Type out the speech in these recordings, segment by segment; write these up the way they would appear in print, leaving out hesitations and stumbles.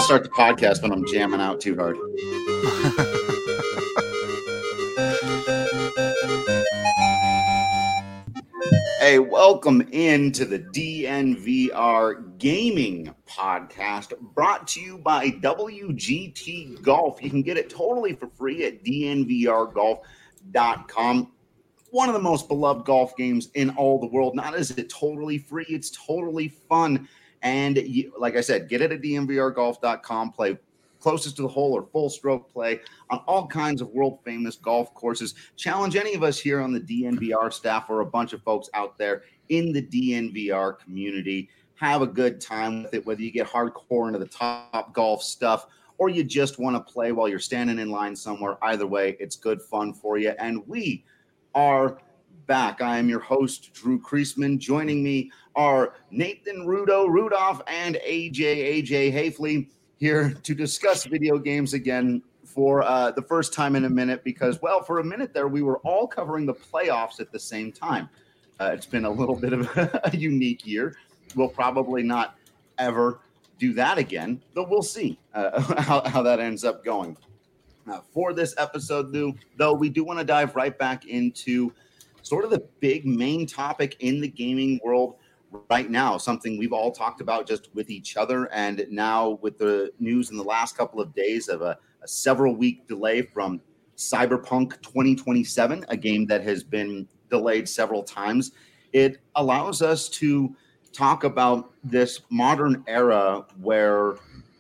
don't start the podcast when I'm jamming out too hard. Hey, welcome into the DNVR Gaming Podcast, brought to you by WGT Golf. You can get it totally for free at dnvrgolf.com. One of the most beloved golf games in all the world. Not is it totally free, it's totally fun. And like I said, get it at dnvrgolf.com. Play closest to the hole or full stroke play on all kinds of world famous golf courses. Challenge any of us here on the DNVR staff or a bunch of folks out there in the DNVR community. Have a good time with it, whether you get hardcore into the top golf stuff or you just want to play while you're standing in line somewhere. Either way, it's good fun for you. And we are back. I am your host, Drew Creasman. Joining me are Nathan Rudolph and AJ Hafley here to discuss video games again for the first time in a minute because, well, for a minute there, we were all covering the playoffs at the same time. It's been a little bit of a unique year. We'll probably not ever do that again, but we'll see how that ends up going. For this episode, though, we do want to dive right back into sort of the big main topic in the gaming world right now, something we've all talked about just with each other, and now with the news in the last couple of days of a several-week delay from Cyberpunk 2027, a game that has been delayed several times. It allows us to talk about this modern era where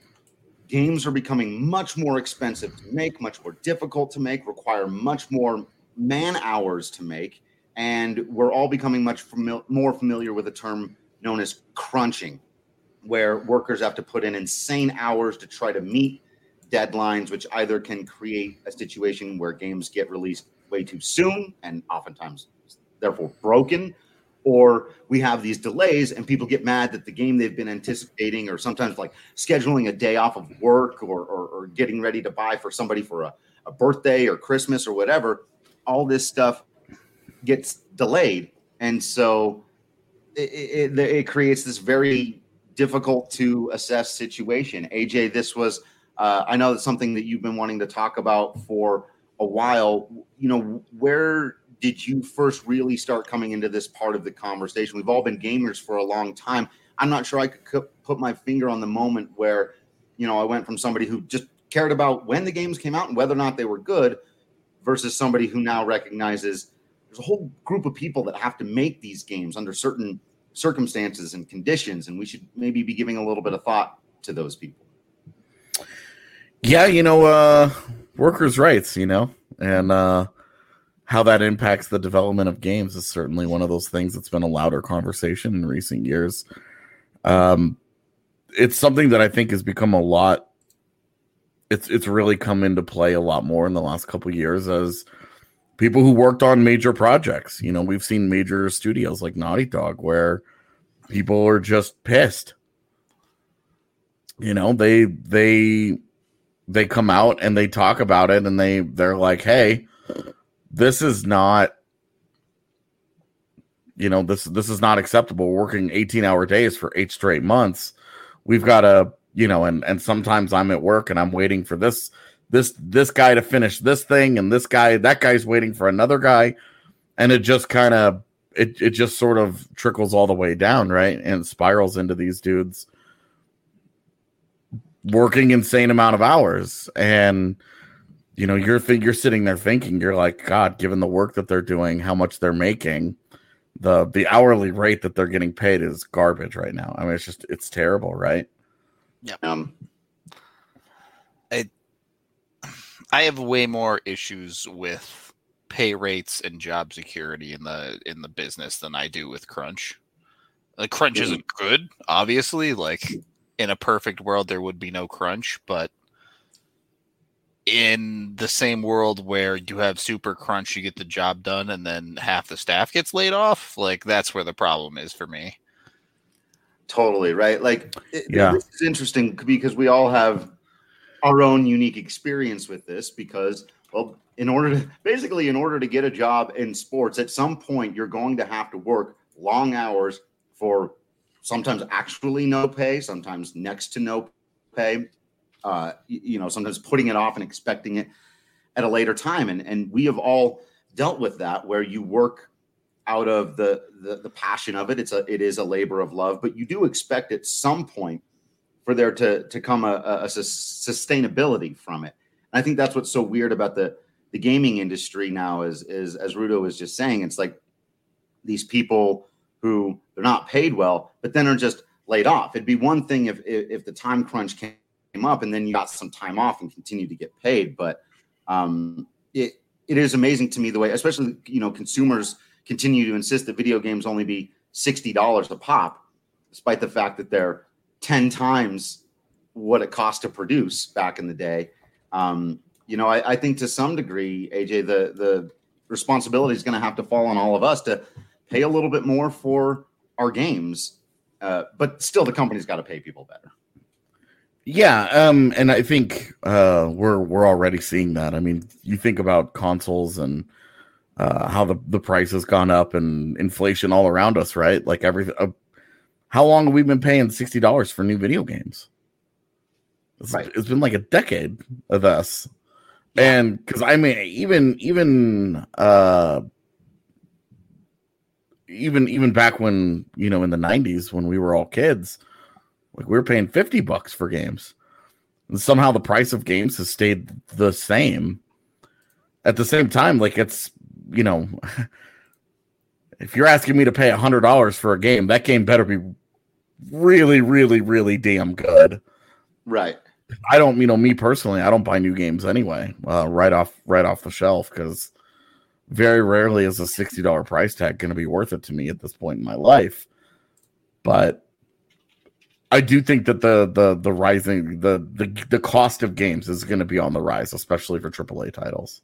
games are becoming much more expensive to make, much more difficult to make, require much more man hours to make. And we're all becoming much more familiar with a term known as crunching, where workers have to put in insane hours to try to meet deadlines, which either can create a situation where games get released way too soon and oftentimes therefore broken, or we have these delays and people get mad that the game they've been anticipating, or sometimes like scheduling a day off of work or getting ready to buy for somebody for a birthday or Christmas or whatever, all this stuff gets delayed. And so it creates this very difficult to assess situation. AJ, this was, I know that's something that you've been wanting to talk about for a while. You know, where did you first really start coming into this part of the conversation? We've all been gamers for a long time. I'm not sure I could put my finger on the moment where, you know, I went from somebody who just cared about when the games came out and whether or not they were good versus somebody who now recognizes there's a whole group of people that have to make these games under certain circumstances and conditions, and we should maybe be giving a little bit of thought to those people. Yeah, you know, workers' rights, you know, and how that impacts the development of games is certainly one of those things that's been a louder conversation in recent years. It's something that I think has become a lot. It's really come into play a lot more in the last couple of years as people who worked on major projects. You know, we've seen major studios like Naughty Dog where people are just pissed. You know, they come out and they talk about it and they're like, hey, this is not, you know, this is not acceptable. We're working 18-hour days for 8 straight months. We've got to, you know, and sometimes I'm at work and I'm waiting for this guy to finish this thing, and that guy's waiting for another guy, and it just kind of it just sort of trickles all the way down, right? And spirals into these dudes working insane amount of hours, and you know, you're sitting there thinking, you're like, God, given the work that they're doing, how much they're making, the hourly rate that they're getting paid is garbage right now. I mean, it's terrible, right? Yeah. I have way more issues with pay rates and job security in the business than I do with crunch. Like, crunch isn't good, obviously. Like, in a perfect world, there would be no crunch, but in the same world where you have super crunch, you get the job done, and then half the staff gets laid off. Like, that's where the problem is for me. Totally, right? Like, this is interesting because we all have our own unique experience with this because, well, in order to get a job in sports, at some point you're going to have to work long hours for sometimes actually no pay, sometimes next to no pay. sometimes putting it off and expecting it at a later time. And we have all dealt with that, where you work out of the passion of it. It is a labor of love, but you do expect at some point for there to come a sustainability from it. And I think that's what's so weird about the gaming industry now is as Rudo was just saying, it's like these people who they're not paid well, but then are just laid off. It'd be one thing if the time crunch came up and then you got some time off and continue to get paid. But it is amazing to me the way, especially, consumers continue to insist that video games only be $60 a pop, despite the fact that they're 10 times what it cost to produce back in the day. I think to some degree, AJ, the responsibility is going to have to fall on all of us to pay a little bit more for our games. But still, the company's got to pay people better. Yeah, and I think we're already seeing that. I mean, you think about consoles and how the price has gone up and inflation all around us, right? Like everything. How long have we been paying $60 for new video games? It's been like a decade of this. Yeah. And because I mean, even back when, in the 90s when we were all kids, like we were paying $50 for games. And somehow the price of games has stayed the same. At the same time, like it's, if you're asking me to pay $100 for a game, that game better be really, really, really damn good. Right. I don't, me personally, I don't buy new games anyway, right off the shelf, because very rarely is a $60 price tag going to be worth it to me at this point in my life. But I do think that the rising the cost of games is going to be on the rise, especially for AAA titles.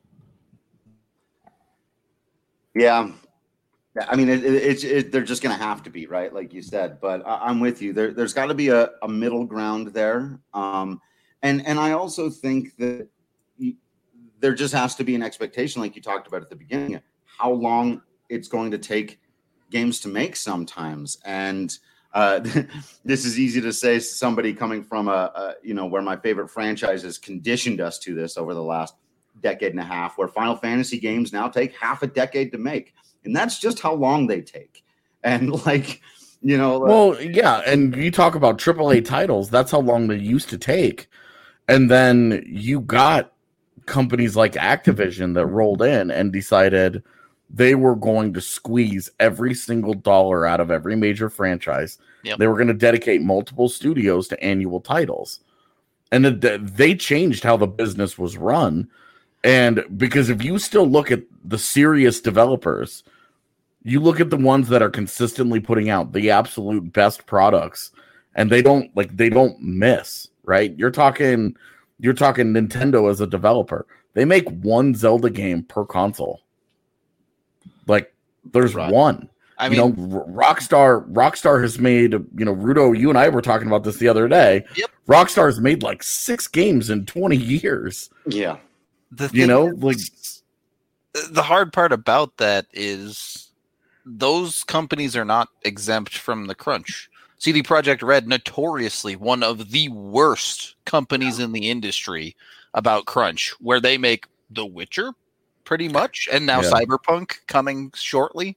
Yeah. I mean, they're just going to have to be, right? Like you said, but I'm with you. There's got to be a middle ground there. And I also think that there just has to be an expectation, like you talked about at the beginning, how long it's going to take games to make sometimes. And this is easy to say, somebody coming from where my favorite franchises conditioned us to this over the last decade and a half, where Final Fantasy games now take half a decade to make. And that's just how long they take. And well, yeah. And you talk about AAA titles, that's how long they used to take. And then you got companies like Activision that rolled in and decided they were going to squeeze every single dollar out of every major franchise. Yep. They were going to dedicate multiple studios to annual titles. And they changed how the business was run. And because if you still look at the serious developers, you look at the ones that are consistently putting out the absolute best products, and they don't miss, right? You're talking Nintendo as a developer. They make one Zelda game per console. Like there's one. I mean, Rockstar has made, Rudo, you and I were talking about this the other day. Yep. Rockstar has made like 6 games in 20 years. Yeah. The hard part about that is those companies are not exempt from the crunch. CD Projekt Red, notoriously one of the worst companies in the industry about crunch, where they make The Witcher pretty much, and now Cyberpunk coming shortly.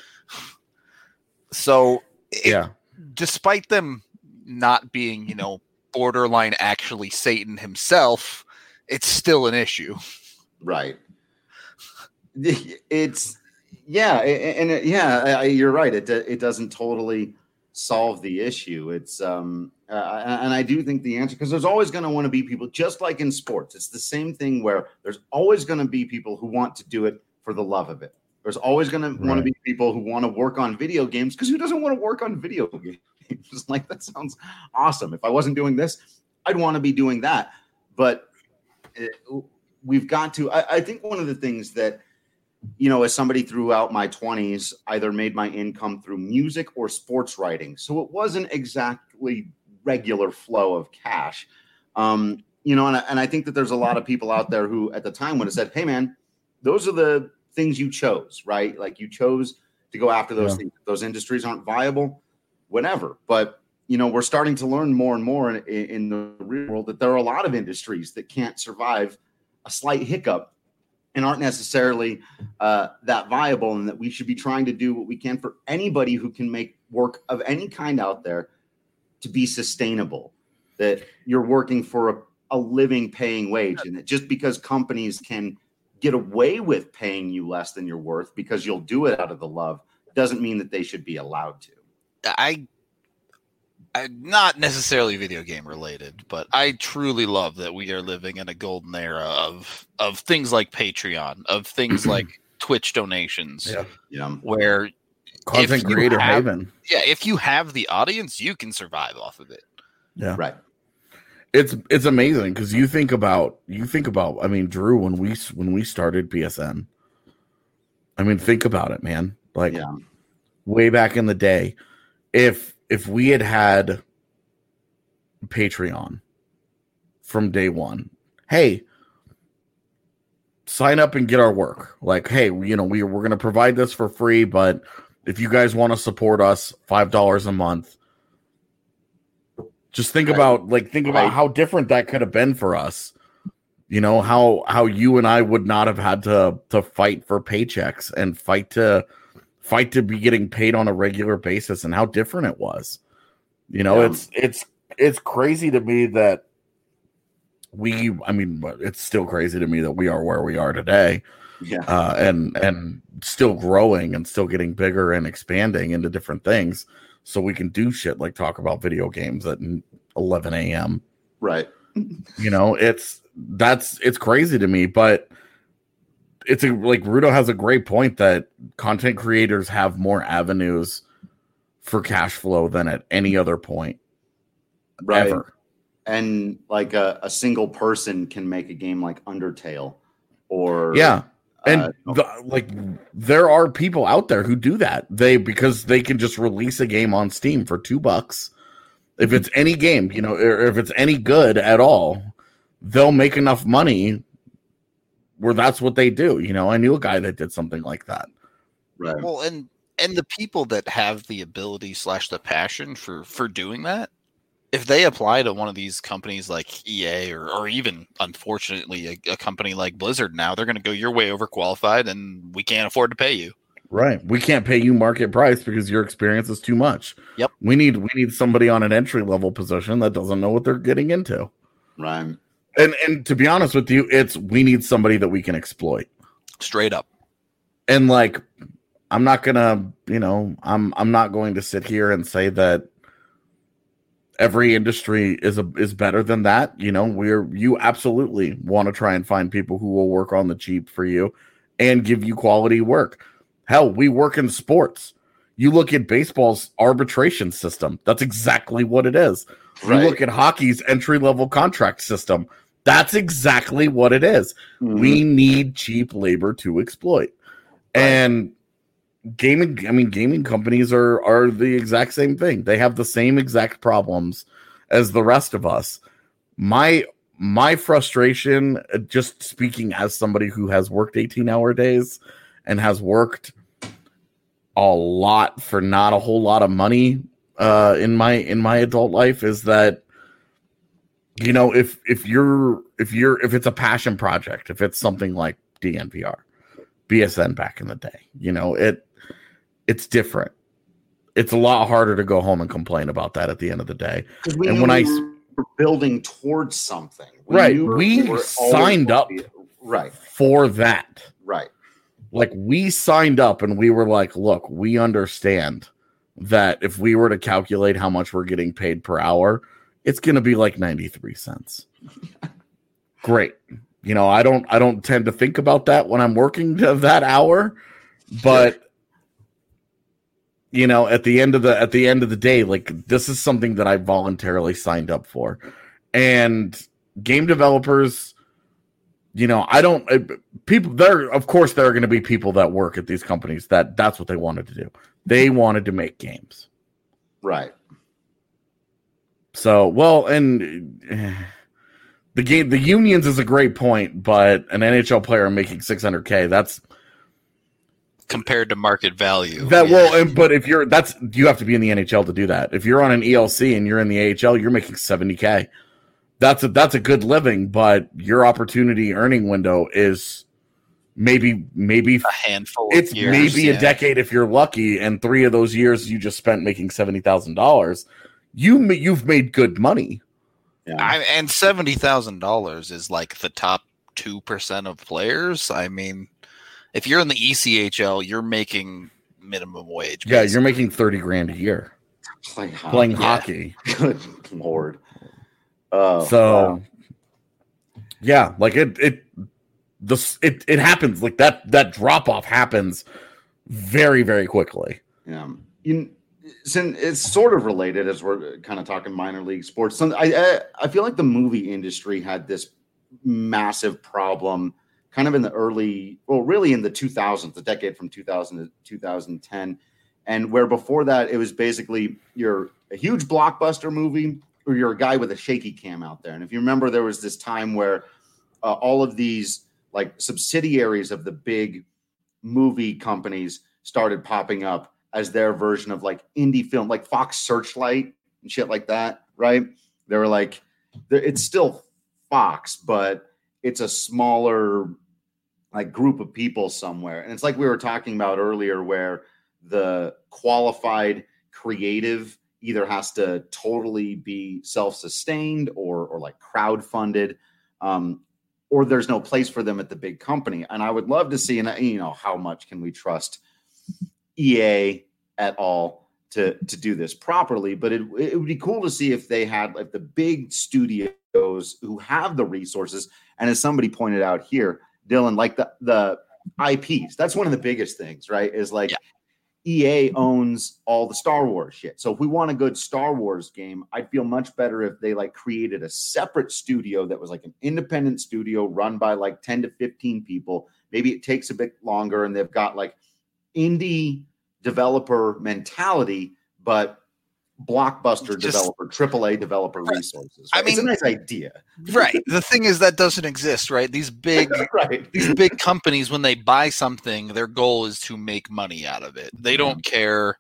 So despite them not being, borderline actually Satan himself, it's still an issue. Right. It's you're right. It doesn't totally solve the issue. It's and I do think the answer, because there's always going to want to be people, just like in sports. It's the same thing where there's always going to be people who want to do it for the love of it. There's always going to want to be people who want to work on video games, because who doesn't want to work on video games? Like, that sounds awesome. If I wasn't doing this, I'd want to be doing that. But we've got to, I think one of the things that, as somebody throughout my 20s, either made my income through music or sports writing. So it wasn't exactly regular flow of cash. And I think that there's a lot of people out there who at the time would have said, hey man, those are the things you chose, right? Like, you chose to go after those things. Those industries aren't viable, whatever. But we're starting to learn more and more in the real world that there are a lot of industries that can't survive a slight hiccup and aren't necessarily that viable, and that we should be trying to do what we can for anybody who can make work of any kind out there to be sustainable, that you're working for a living paying wage, and that just because companies can get away with paying you less than you're worth because you'll do it out of the love doesn't mean that they should be allowed to. I'm not necessarily video game related, but I truly love that we are living in a golden era of things like Patreon, of things like Twitch donations, where content creator haven. Yeah, if you have the audience, you can survive off of it. Yeah, right. It's amazing because you think about. I mean, Drew, when we started PSN, I mean, think about it, man. Like way back in the day, if we had Patreon from day one, hey, sign up and get our work. Like, hey, we're going to provide this for free, but if you guys want to support us, $5 a month. Just think about how different that could have been for us. How you and I would not have had to fight for paychecks and fight to be getting paid on a regular basis, and how different it was. It's crazy to me that it's still crazy to me that we are where we are today. Yeah. And still growing and still getting bigger and expanding into different things. So we can do shit like talk about video games at 11 a.m. Right. It's crazy to me, but it's like Rudo has a great point that content creators have more avenues for cash flow than at any other point. Right. Ever. And like a single person can make a game like Undertale or And there are people out there who do that. Because they can just release a game on Steam for $2. If it's any game, or if it's any good at all, they'll make enough money where that's what they do. I knew a guy that did something like that. Right. Well, and the people that have the ability / the passion for doing that, if they apply to one of these companies like EA or even, unfortunately, a company like Blizzard now, they're going to go, you're way overqualified and we can't afford to pay you. Right. We can't pay you market price because your experience is too much. Yep. We need somebody on an entry level position that doesn't know what they're getting into. Right. And to be honest with you, we need somebody that we can exploit. Straight up. And I'm not gonna, I'm not going to sit here and say that every industry is better than that. You absolutely want to try and find people who will work on the cheap for you and give you quality work. Hell, we work in sports. You look at baseball's arbitration system. That's exactly what it is. Right. You look at hockey's entry-level contract system. That's exactly what it is. Mm-hmm. We need cheap labor to exploit. Right. And gaming companies are the exact same thing. They have the same exact problems as the rest of us. My frustration, just speaking as somebody who has worked 18-hour days and has worked a lot for not a whole lot of money in my adult life, is that if it's a passion project, if it's something like DNVR, BSN back in the day, it's different. It's a lot harder to go home and complain about that at the end of the day. And when we were building towards something, we signed up for that. Right. Like, we signed up and we were like, look, we understand that if we were to calculate how much we're getting paid per hour, it's going to be like 93 cents. Great. I don't tend to think about that when I'm working that hour, but at the end of the day, like, this is something that I voluntarily signed up for. And game developers, of course there are going to be people that work at these companies that's what they wanted to do. They wanted to make games. Right. So, and the unions is a great point, but an NHL player making $600K, compared to market value. But if you have to be in the NHL to do that. If you're on an ELC and you're in the AHL, you're making $70K. That's a good living, but your opportunity earning window is maybe a handful of it's years, maybe a decade if you're lucky, and 3 of those years you just spent making $70,000. You've made good money. Yeah. And $70,000 is like the top 2% of players. I mean, if you're in the ECHL, you're making minimum wage. Yeah, you're making $30,000 a year playing hockey. Good Lord. Yeah, like it happens, like that drop off happens very, very quickly. Yeah. It's sort of related as we're kind of talking minor league sports. I feel like the movie industry had this massive problem kind of in the really in the 2000s, the decade from 2000 to 2010. And where before that, it was basically you're a huge blockbuster movie or you're a guy with a shaky cam out there. And if you remember, there was this time where all of these like subsidiaries of the big movie companies started popping up as their version of like indie film, like Fox Searchlight and shit like that, right? They were like, it's still Fox, but it's a smaller like group of people somewhere. And it's like we were talking about earlier where the qualified creative either has to totally be self-sustained or like crowd-funded, or there's no place for them at the big company. And I would love to see, and how much can we trust EA at all to do this properly? But it would be cool to see if they had like the big studios who have the resources. And as somebody pointed out here, Dylan, like the IPs, that's one of the biggest things, right? Is like, EA owns all the Star Wars shit. So if we want a good Star Wars game, I'd feel much better if they like created a separate studio that was like an independent studio run by like 10 to 15 people. Maybe it takes a bit longer and they've got like indie developer mentality, but blockbuster developer, AAA developer resources. Right? I mean, it's a nice idea. Right. The thing is that doesn't exist, right? These big these big companies, when they buy something, their goal is to make money out of it. They don't care.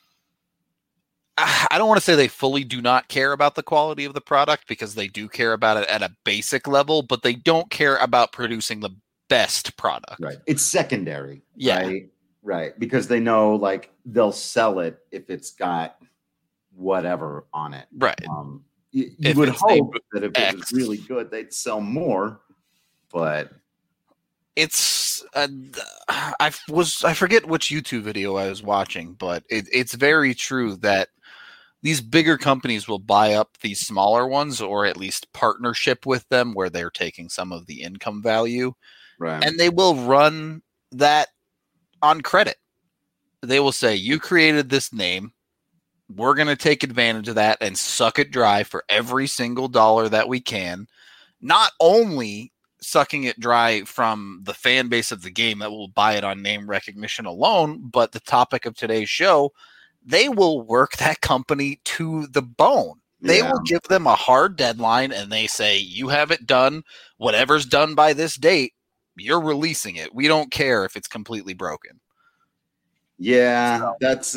I don't want to say they fully do not care about the quality of the product, because they do care about it at a basic level, but they don't care about producing the best product. Right. It's secondary. Yeah. Right. Because they know like they'll sell it if it's got whatever on it. Right. You would hope that if it was really good, they'd sell more, but it's I forget which YouTube video I was watching, but it's very true that these bigger companies will buy up these smaller ones, or at least partnership with them where they're taking some of the income value, right? And they will run that on credit. They will say, you created this name, we're going to take advantage of that and suck it dry for every single dollar that we can. Not only sucking it dry from the fan base of the game that will buy it on name recognition alone, but the topic of today's show, they will work that company to the bone. They will give them a hard deadline and they say, you have it done. Whatever's done by this date, you're releasing it. We don't care if it's completely broken. Yeah, that's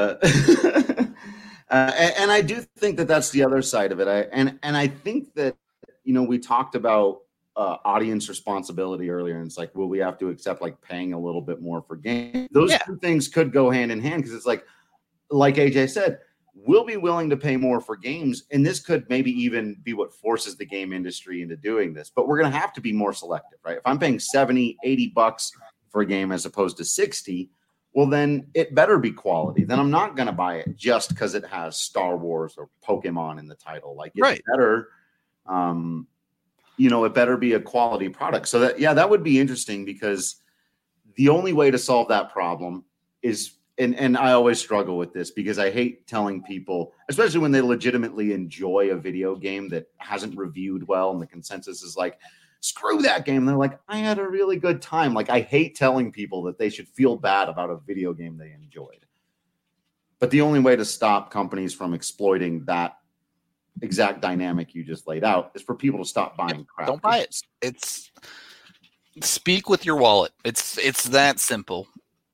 and I do think that that's the other side of it. I think that, we talked about audience responsibility earlier, and it's like, will we have to accept like paying a little bit more for games? Those two things could go hand in hand, because it's like AJ said, we'll be willing to pay more for games, and this could maybe even be what forces the game industry into doing this. But we're going to have to be more selective, right? If I'm paying $70-$80 for a game as opposed to 60, well, then it better be quality. Then I'm not going to buy it just because it has Star Wars or Pokemon in the title. Like, it's better, it better be a quality product. So that would be interesting, because the only way to solve that problem is, and I always struggle with this because I hate telling people, especially when they legitimately enjoy a video game that hasn't reviewed well and the consensus is like, screw that game. And they're like, I had a really good time. Like, I hate telling people that they should feel bad about a video game they enjoyed. But the only way to stop companies from exploiting that exact dynamic you just laid out is for people to stop buying crap. Don't buy it. It's speak with your wallet. It's that simple.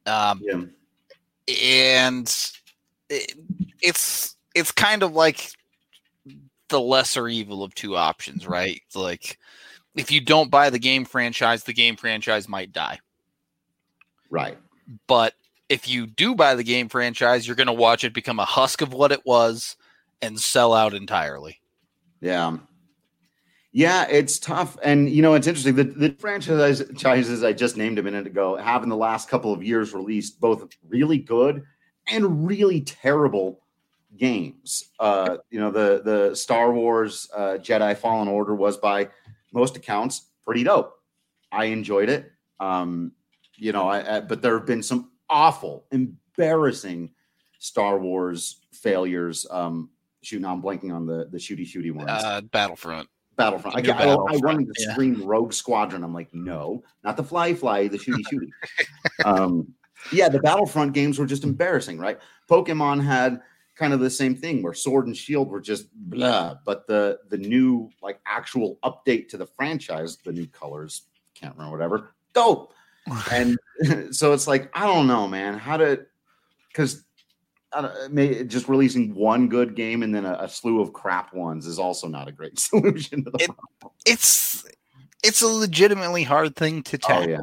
Yeah. And it's kind of like the lesser evil of two options, right? It's like, if you don't buy the game franchise might die. Right. But if you do buy the game franchise, you're going to watch it become a husk of what it was and sell out entirely. Yeah. Yeah, it's tough. And, it's interesting. The franchises I just named a minute ago have in the last couple of years released both really good and really terrible games. The Star Wars Jedi Fallen Order was, by most accounts, pretty dope. I enjoyed it. But there have been some awful, embarrassing Star Wars failures. I'm blanking on the shooty ones. Battlefront. I wanted to scream Rogue Squadron. I'm like, no, not the fly, the shooty. The Battlefront games were just embarrassing, right? Pokemon had kind of the same thing where Sword and Shield were just blah, but the new actual update to the franchise, the new colors, can't remember, whatever, dope. And so it's like, I don't know, man, because just releasing one good game and then a slew of crap ones is also not a great solution to the problem. It's a legitimately hard thing to tackle.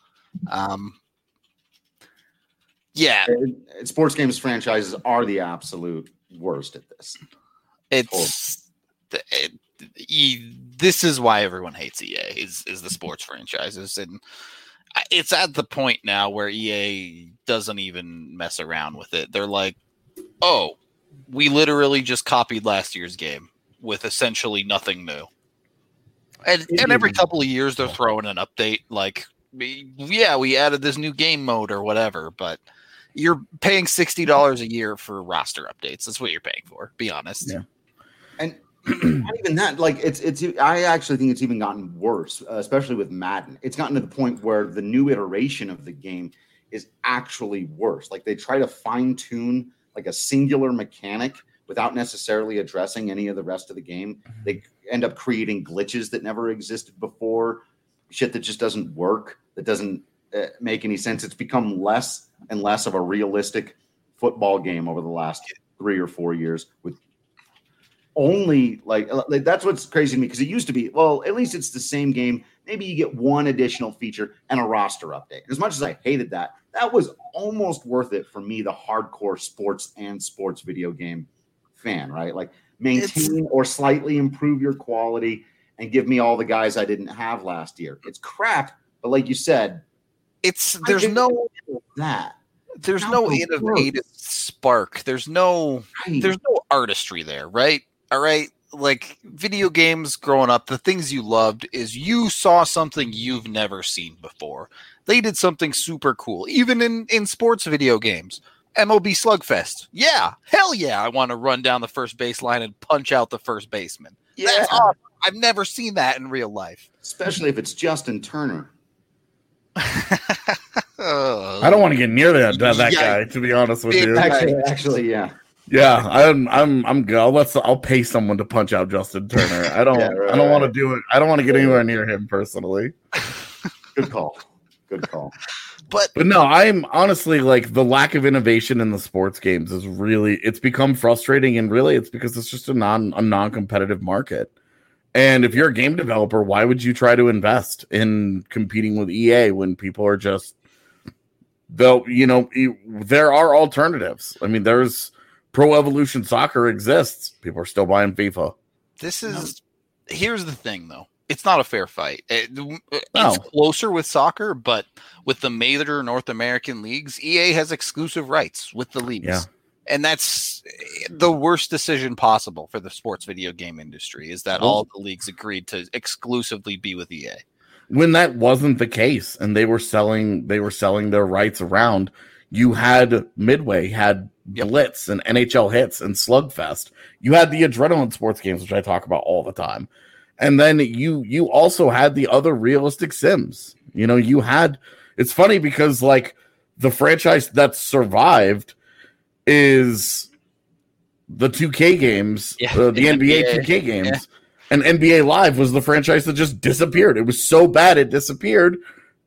Sports games franchises are the absolute worst at this. This is why everyone hates EA is the sports franchises, and it's at the point now where EA doesn't even mess around with it. They're like, oh, we literally just copied last year's game with essentially nothing new. And every couple of years they're throwing an update like, yeah, we added this new game mode or whatever, but you're paying $60 a year for roster updates. That's what you're paying for, be honest. Yeah. And not even that, I actually think it's even gotten worse, especially with Madden. It's gotten to the point where the new iteration of the game is actually worse. Like, they try to fine tune a singular mechanic without necessarily addressing any of the rest of the game. They end up creating glitches that never existed before, shit that just doesn't work, that doesn't make any sense. It's become less and less of a realistic football game over the last 3 or 4 years, with only that's what's crazy to me, because it used to be, well, at least it's the same game. Maybe you get one additional feature and a roster update. As much as I hated that was almost worth it for me, the hardcore sports video game fan, right? Like, maintain or slightly improve your quality and give me all the guys I didn't have last year. It's crap, but like you said, there's no innovative spark. There's no artistry there, right? All right. Like, video games growing up, the things you loved is you saw something you've never seen before. They did something super cool. Even in sports video games, MLB Slugfest. Yeah. Hell yeah. I want to run down the first baseline and punch out the first baseman. Yeah. That's awesome. I've never seen that in real life. Especially if it's Justin Turner. I don't want to get near that guy, to be honest with you. Actually, yeah. Yeah, I'm good. I'll pay someone to punch out Justin Turner. I don't want to do it. I don't want to get anywhere near him personally. Good call. But no, I'm honestly, the lack of innovation in the sports games is really, it's become frustrating, and really it's because it's just a non-competitive market. And if you're a game developer, why would you try to invest in competing with EA when people are just, there are alternatives. I mean, there's Pro Evolution Soccer exists. People are still buying FIFA. Here's the thing, though. It's not a fair fight. It's closer with soccer, but with the major North American leagues, EA has exclusive rights with the leagues. Yeah. And that's the worst decision possible for the sports video game industry, is that all the leagues agreed to exclusively be with EA. When that wasn't the case and they were selling their rights around, you had Midway, had Blitz and NHL Hits and Slugfest. You had the Adrenaline sports games, which I talk about all the time. And then you also had the other realistic sims. You had, it's funny because the franchise that survived is the 2K games, the NBA 2K games. Yeah. And NBA Live was the franchise that just disappeared. It was so bad it disappeared.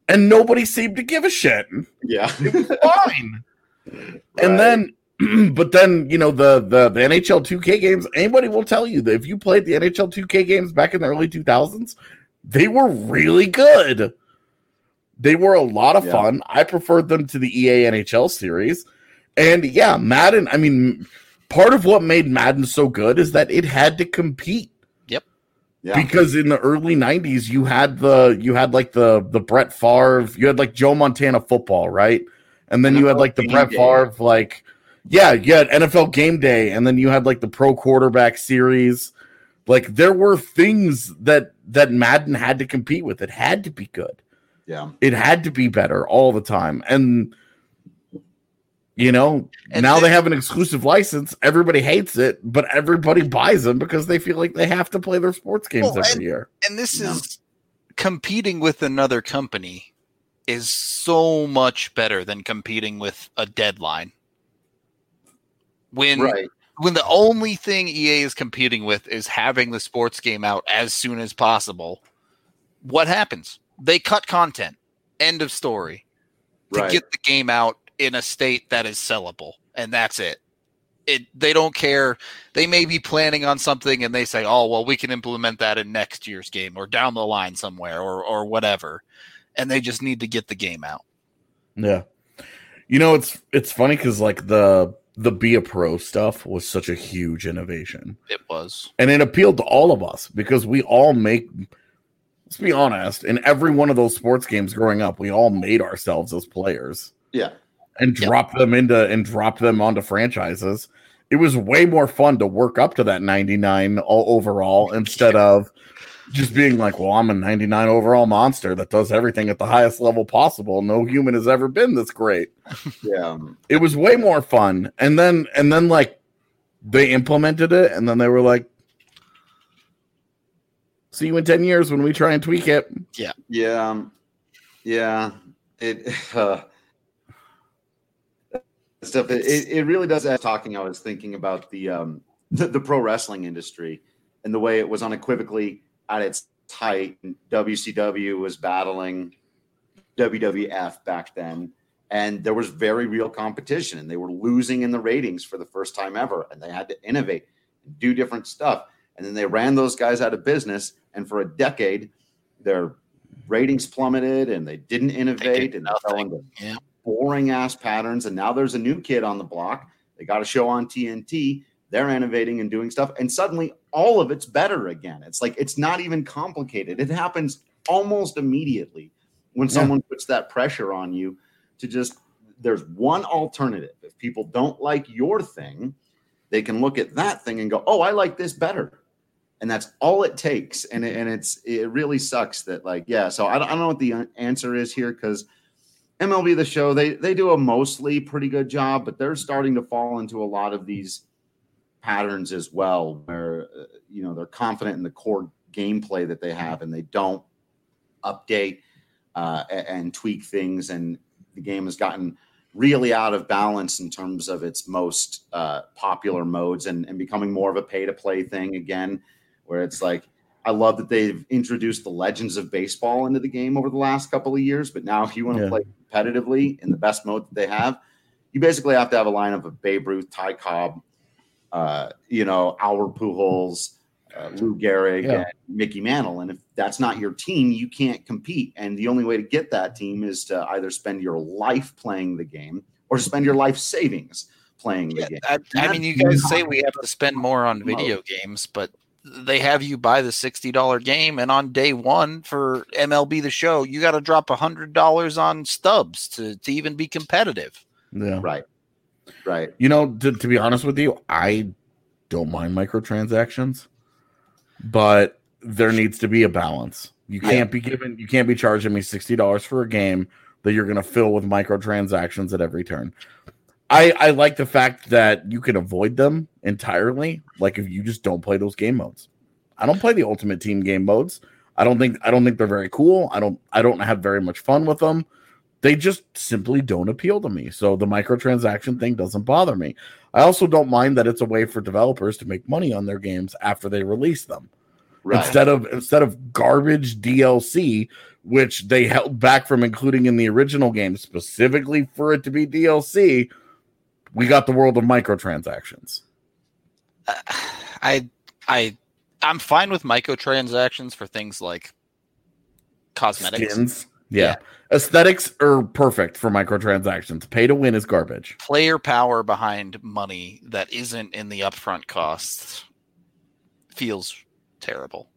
and nobody seemed to give a shit. Yeah. It was fine. And then, but then, you know, the NHL 2K games, anybody will tell you that if you played the NHL 2K games back in the early 2000s, they were really good. They were a lot of fun. I preferred them to the EA NHL series. And yeah, Madden, I mean, part of what made Madden so good is that it had to compete. Yep. Yeah. Because in the early 90s, you had like the Brett Favre, you had like Joe Montana football, right? And then you had like the Brett Favre, like, yeah, you had NFL Game Day, and then you had like the Pro Quarterback Series. Like, there were things that Madden had to compete with. It had to be good. Yeah. It had to be better all the time. And, you know, and now they have an exclusive license. Everybody hates it, but everybody buys them because they feel like they have to play their sports games every year. And this is competing with another company is so much better than competing with a deadline. When the only thing EA is competing with is having the sports game out as soon as possible, what happens? They cut content. End of story. To get the game out in a state that is sellable, and that's it. They don't care. They may be planning on something, and they say, "Oh, well, we can implement that in next year's game or down the line somewhere or whatever," and they just need to get the game out. Yeah, you know, it's funny because like the Be a Pro stuff was such a huge innovation. It was, and it appealed to all of us because we all make. Let's be honest. In every one of those sports games growing up, we all made ourselves as players. Yeah. And drop them onto franchises. It was way more fun to work up to that 99 overall instead of just being like, well, I'm a 99 overall monster that does everything at the highest level possible. No human has ever been this great. Yeah. It was way more fun. And then like they implemented it and then they were like, see you in 10 years when we try and tweak it. Yeah. Yeah. Yeah. It stuff. It really does. As talking, I was thinking about the pro wrestling industry and the way it was unequivocally at its height. WCW was battling WWF back then, and there was very real competition, and they were losing in the ratings for the first time ever, and they had to innovate and do different stuff. And then they ran those guys out of business, and for a decade, their ratings plummeted, and they didn't innovate, and they fell into boring ass patterns. And now there's a new kid on the block. They got a show on TNT. They're innovating and doing stuff, and suddenly all of it's better again. It's like it's not even complicated. It happens almost immediately when someone puts that pressure on you to just. There's one alternative. If people don't like your thing, they can look at that thing and go, "Oh, I like this better." And that's all it takes. And it really sucks that so I don't know what the answer is here because MLB The Show, they do a mostly pretty good job, but they're starting to fall into a lot of these patterns as well where, they're confident in the core gameplay that they have and they don't update and tweak things. And the game has gotten really out of balance in terms of its most popular modes and becoming more of a pay-to-play thing again. Where it's like, I love that they've introduced the Legends of Baseball into the game over the last couple of years. But now if you want to play competitively in the best mode that they have, you basically have to have a lineup of Babe Ruth, Ty Cobb, Albert Pujols, Lou Gehrig, and Mickey Mantle. And if that's not your team, you can't compete. And the only way to get that team is to either spend your life playing the game or spend your life savings playing the game. I mean, you guys say we have to spend more on video games, but they have you buy the $60 game, and on day one for MLB The Show, you got to drop $100 on stubs to even be competitive. Yeah, right. To be honest with you, I don't mind microtransactions, but there needs to be a balance. You can't be charging me $60 for a game that you're going to fill with microtransactions at every turn. I like the fact that you can avoid them entirely. Like if you just don't play those game modes. I don't play the Ultimate Team game modes. I don't think they're very cool. I don't have very much fun with them. They just simply don't appeal to me. So the microtransaction thing doesn't bother me. I also don't mind that it's a way for developers to make money on their games after they release them. Right. Instead of garbage DLC, which they held back from including in the original game specifically for it to be DLC, we got the world of microtransactions. I'm fine with microtransactions for things like cosmetics. Skins. Yeah. Aesthetics are perfect for microtransactions. Pay to win is garbage. Player power behind money that isn't in the upfront costs feels terrible.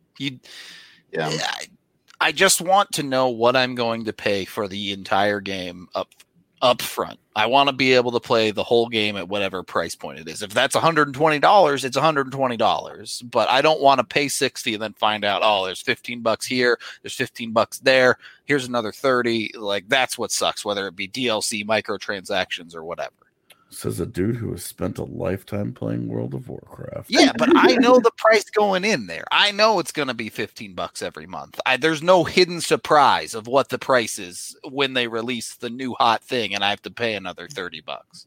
I just want to know what I'm going to pay for the entire game up front. I want to be able to play the whole game at whatever price point it is. If that's $120, it's $120. But I don't want to pay $60 and then find out, oh, there's $15 here, there's $15 there, here's another $30. Like, that's what sucks, whether it be DLC, microtransactions, or whatever. Says a dude who has spent a lifetime playing World of Warcraft. Yeah, but I know the price going in there. I know it's going to be $15 every month. There's no hidden surprise of what the price is when they release the new hot thing, and I have to pay another $30.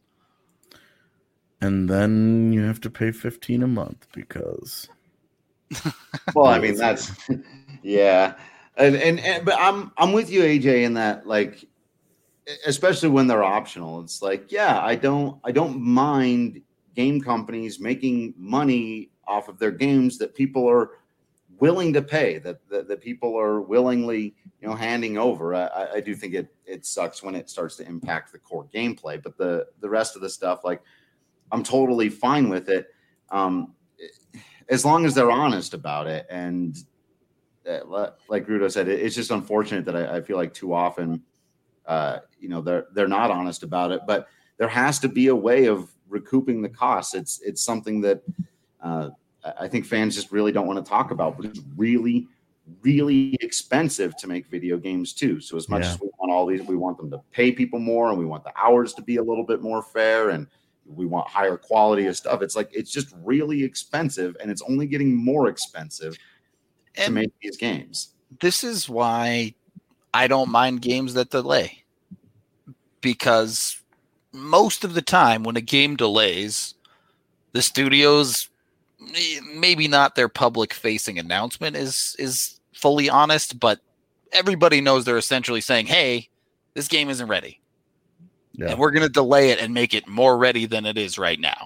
And then you have to pay $15 a month because. Well, I mean that's yeah, and but I'm with you, AJ, in that, like, especially when they're optional. It's like, yeah, I don't mind game companies making money off of their games that people are willing to pay, that people are willingly, handing over. I do think it sucks when it starts to impact the core gameplay, but the rest of the stuff, like, I'm totally fine with it, as long as they're honest about it. And like Rudo said, it's just unfortunate that I feel like too often they're not honest about it, but there has to be a way of recouping the costs. It's something that I think fans just really don't want to talk about, but it's really, really expensive to make video games too. So as much as we want all these, we want them to pay people more, and we want the hours to be a little bit more fair, and we want higher quality of stuff. It's like, it's just really expensive, and it's only getting more expensive to make these games. This is why I don't mind games that delay, because most of the time when a game delays, the studios, maybe not their public facing announcement is fully honest, but everybody knows they're essentially saying, hey, this game isn't ready. Yeah. And we're going to delay it and make it more ready than it is right now.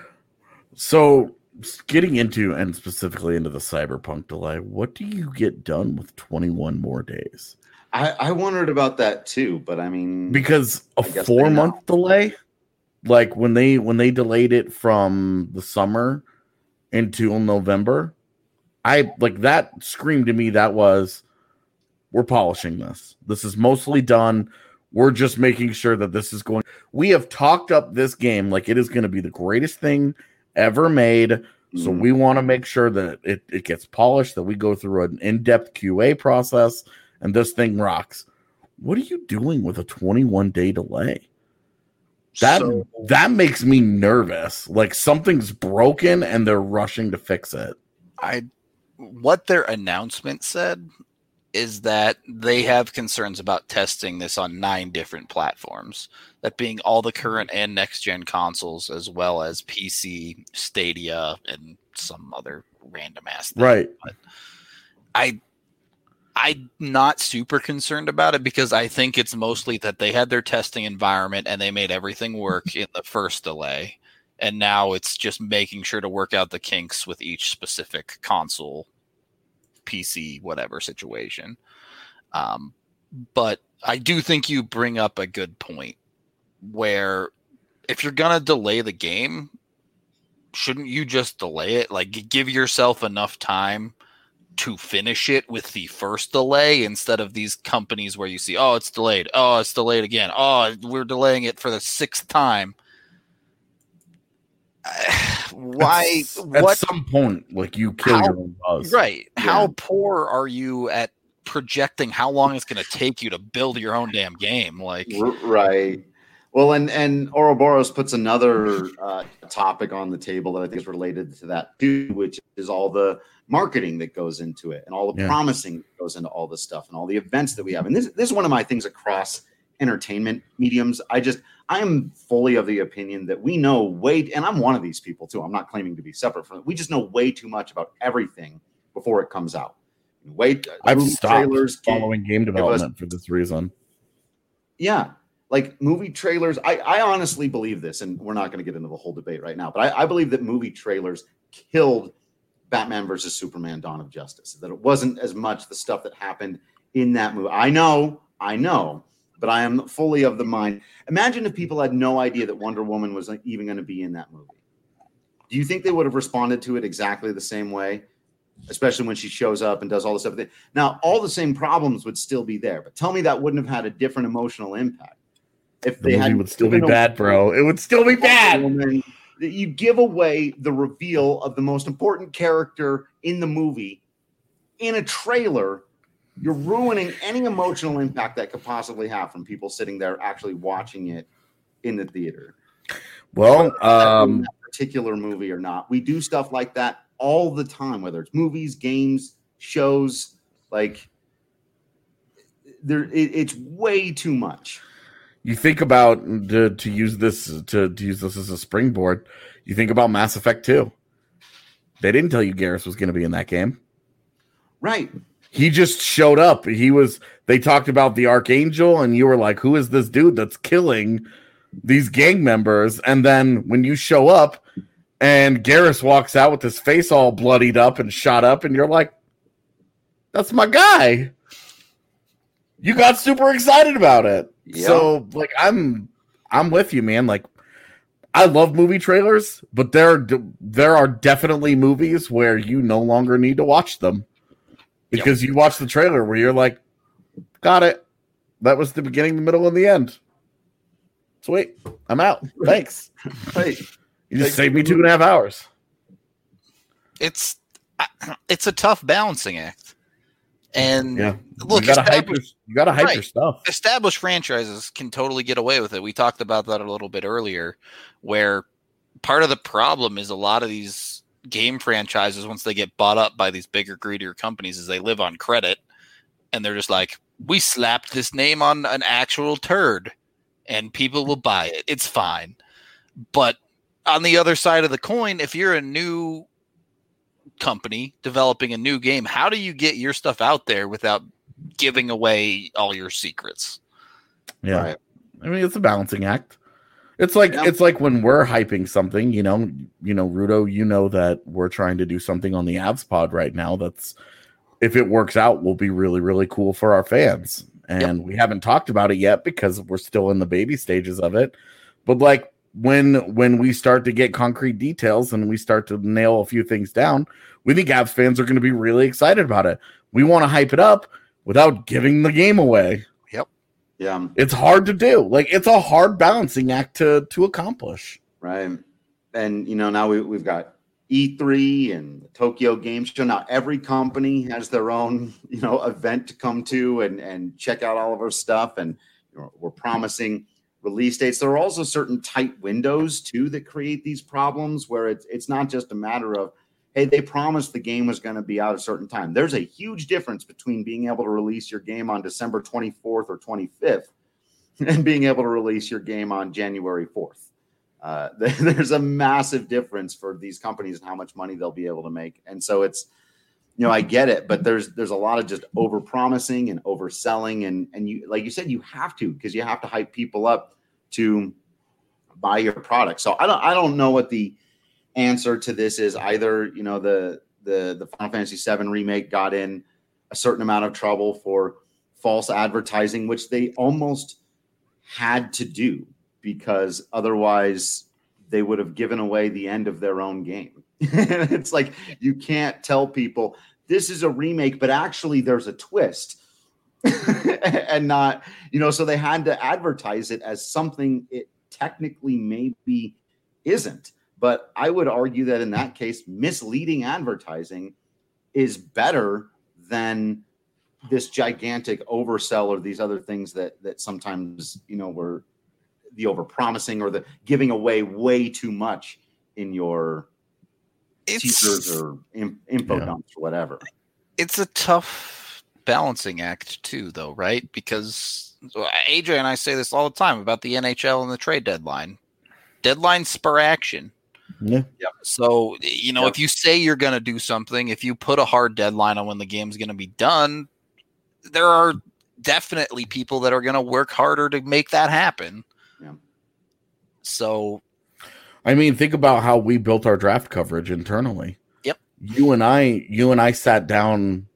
So getting into, and specifically into, the Cyberpunk delay, what do you get done with 21 more days? I wondered about that too, but I mean, because a 4-month delay, like when they delayed it from the summer until November, I like that screamed to me that was, we're polishing this. This is mostly done. We're just making sure that this is going. We have talked up this game like it is going to be the greatest thing ever made. So we want to make sure that it gets polished, that we go through an in-depth QA process, and this thing rocks. What are you doing with a 21-day delay? That makes me nervous. Like something's broken and they're rushing to fix it. What their announcement said is that they have concerns about testing this on 9 different platforms, that being all the current and next-gen consoles, as well as PC, Stadia, and some other random-ass thing. Right. But I'm not super concerned about it, because I think it's mostly that they had their testing environment and they made everything work in the first delay, and now it's just making sure to work out the kinks with each specific console, PC, whatever situation. But I do think you bring up a good point, where if you're going to delay the game, shouldn't you just delay it? Like, give yourself enough time to finish it with the first delay, instead of these companies where you see, oh, it's delayed. Oh, it's delayed again. Oh, we're delaying it for the 6th time. Why? At some point, like, you kill your own buzz. Right. Yeah. How poor are you at projecting how long it's going to take you to build your own damn game? Like, right. Well, and Ouroboros puts another topic on the table that I think is related to that too, which is all the marketing that goes into it, and all the promising that goes into all this stuff, and all the events that we have. And this is one of my things across entertainment mediums. I am fully of the opinion that we know and I'm one of these people too. I'm not claiming to be separate from it. We just know way too much about everything before it comes out. Wait, I've movie stopped trailers following game development for this reason. Yeah, like movie trailers. I honestly believe this, and we're not going to get into the whole debate right now, but I believe that movie trailers killed Batman versus Superman: Dawn of Justice. That it wasn't as much the stuff that happened in that movie. I know, but I am fully of the mind. Imagine if people had no idea that Wonder Woman was even going to be in that movie. Do you think they would have responded to it exactly the same way? Especially when she shows up and does all this stuff. Now, all the same problems would still be there, but tell me that wouldn't have had a different emotional impact. If The movie would still be bad, bro. It would still be bad. You give away the reveal of the most important character in the movie in a trailer. You're ruining any emotional impact that could possibly have from people sitting there actually watching it in the theater. Well, that particular movie or not, we do stuff like that all the time, whether it's movies, games, shows. Like it's way too much. You think about to use this as a springboard. You think about Mass Effect 2. They didn't tell you Garrus was going to be in that game, right? He just showed up. They talked about the Archangel, and you were like, "Who is this dude that's killing these gang members?" And then when you show up, and Garrus walks out with his face all bloodied up and shot up, and you're like, "That's my guy." You got super excited about it. Yeah. So, like, I'm with you, man. Like, I love movie trailers, but there are definitely movies where you no longer need to watch them because you watch the trailer where you're like, "Got it. That was the beginning, the middle, and the end. Sweet. I'm out. Thanks." Hey. You just saved me 2.5 hours. It's a tough balancing act. And look, you gotta hype your stuff. Established franchises can totally get away with it. We talked about that a little bit earlier, where part of the problem is a lot of these game franchises, once they get bought up by these bigger, greedier companies, is they live on credit, and they're just like, we slapped this name on an actual turd, and people will buy it. It's fine. But on the other side of the coin, if you're a new company developing a new game, how do you get your stuff out there without giving away all your secrets? Yeah. Right. I mean, it's a balancing act. It's like when we're hyping something, you know, Rudo, you know that we're trying to do something on the Avs pod right now that's, if it works out, will be really, really cool for our fans. And we haven't talked about it yet because we're still in the baby stages of it. But like, when we start to get concrete details and we start to nail a few things down, we think Avs fans are going to be really excited about it. We want to hype it up without giving the game away. Yep. Yeah. It's hard to do. Like, it's a hard balancing act to accomplish. Right. And, now we've got E3 and the Tokyo Game Show. Now every company has their own, event to come to and check out all of our stuff. And we're promising release dates. There are also certain tight windows too that create these problems where it's not just a matter of, hey, they promised the game was going to be out a certain time. There's a huge difference between being able to release your game on December 24th or 25th and being able to release your game on January 4th. There's a massive difference for these companies and how much money they'll be able to make. And so it's, I get it, but there's a lot of just over promising and overselling. And you, like you said, you have to, because you have to hype people up to buy your product. So I don't know what the answer to this is either. The Final Fantasy VII remake got in a certain amount of trouble for false advertising, which they almost had to do because otherwise they would have given away the end of their own game. It's like, you can't tell people this is a remake, but actually there's a twist. And not, so they had to advertise it as something it technically maybe isn't. But I would argue that in that case, misleading advertising is better than this gigantic oversell or these other things that sometimes, were the overpromising or the giving away way too much in your teasers or info dumps or whatever. It's a tough balancing act too, though, right? Because AJ and I say this all the time about the NHL and the trade deadline. Deadlines spur action. Yeah. So, if you say you're going to do something, if you put a hard deadline on when the game's going to be done, there are definitely people that are going to work harder to make that happen. Yeah. So, I mean, think about how we built our draft coverage internally. Yep. You and I sat down,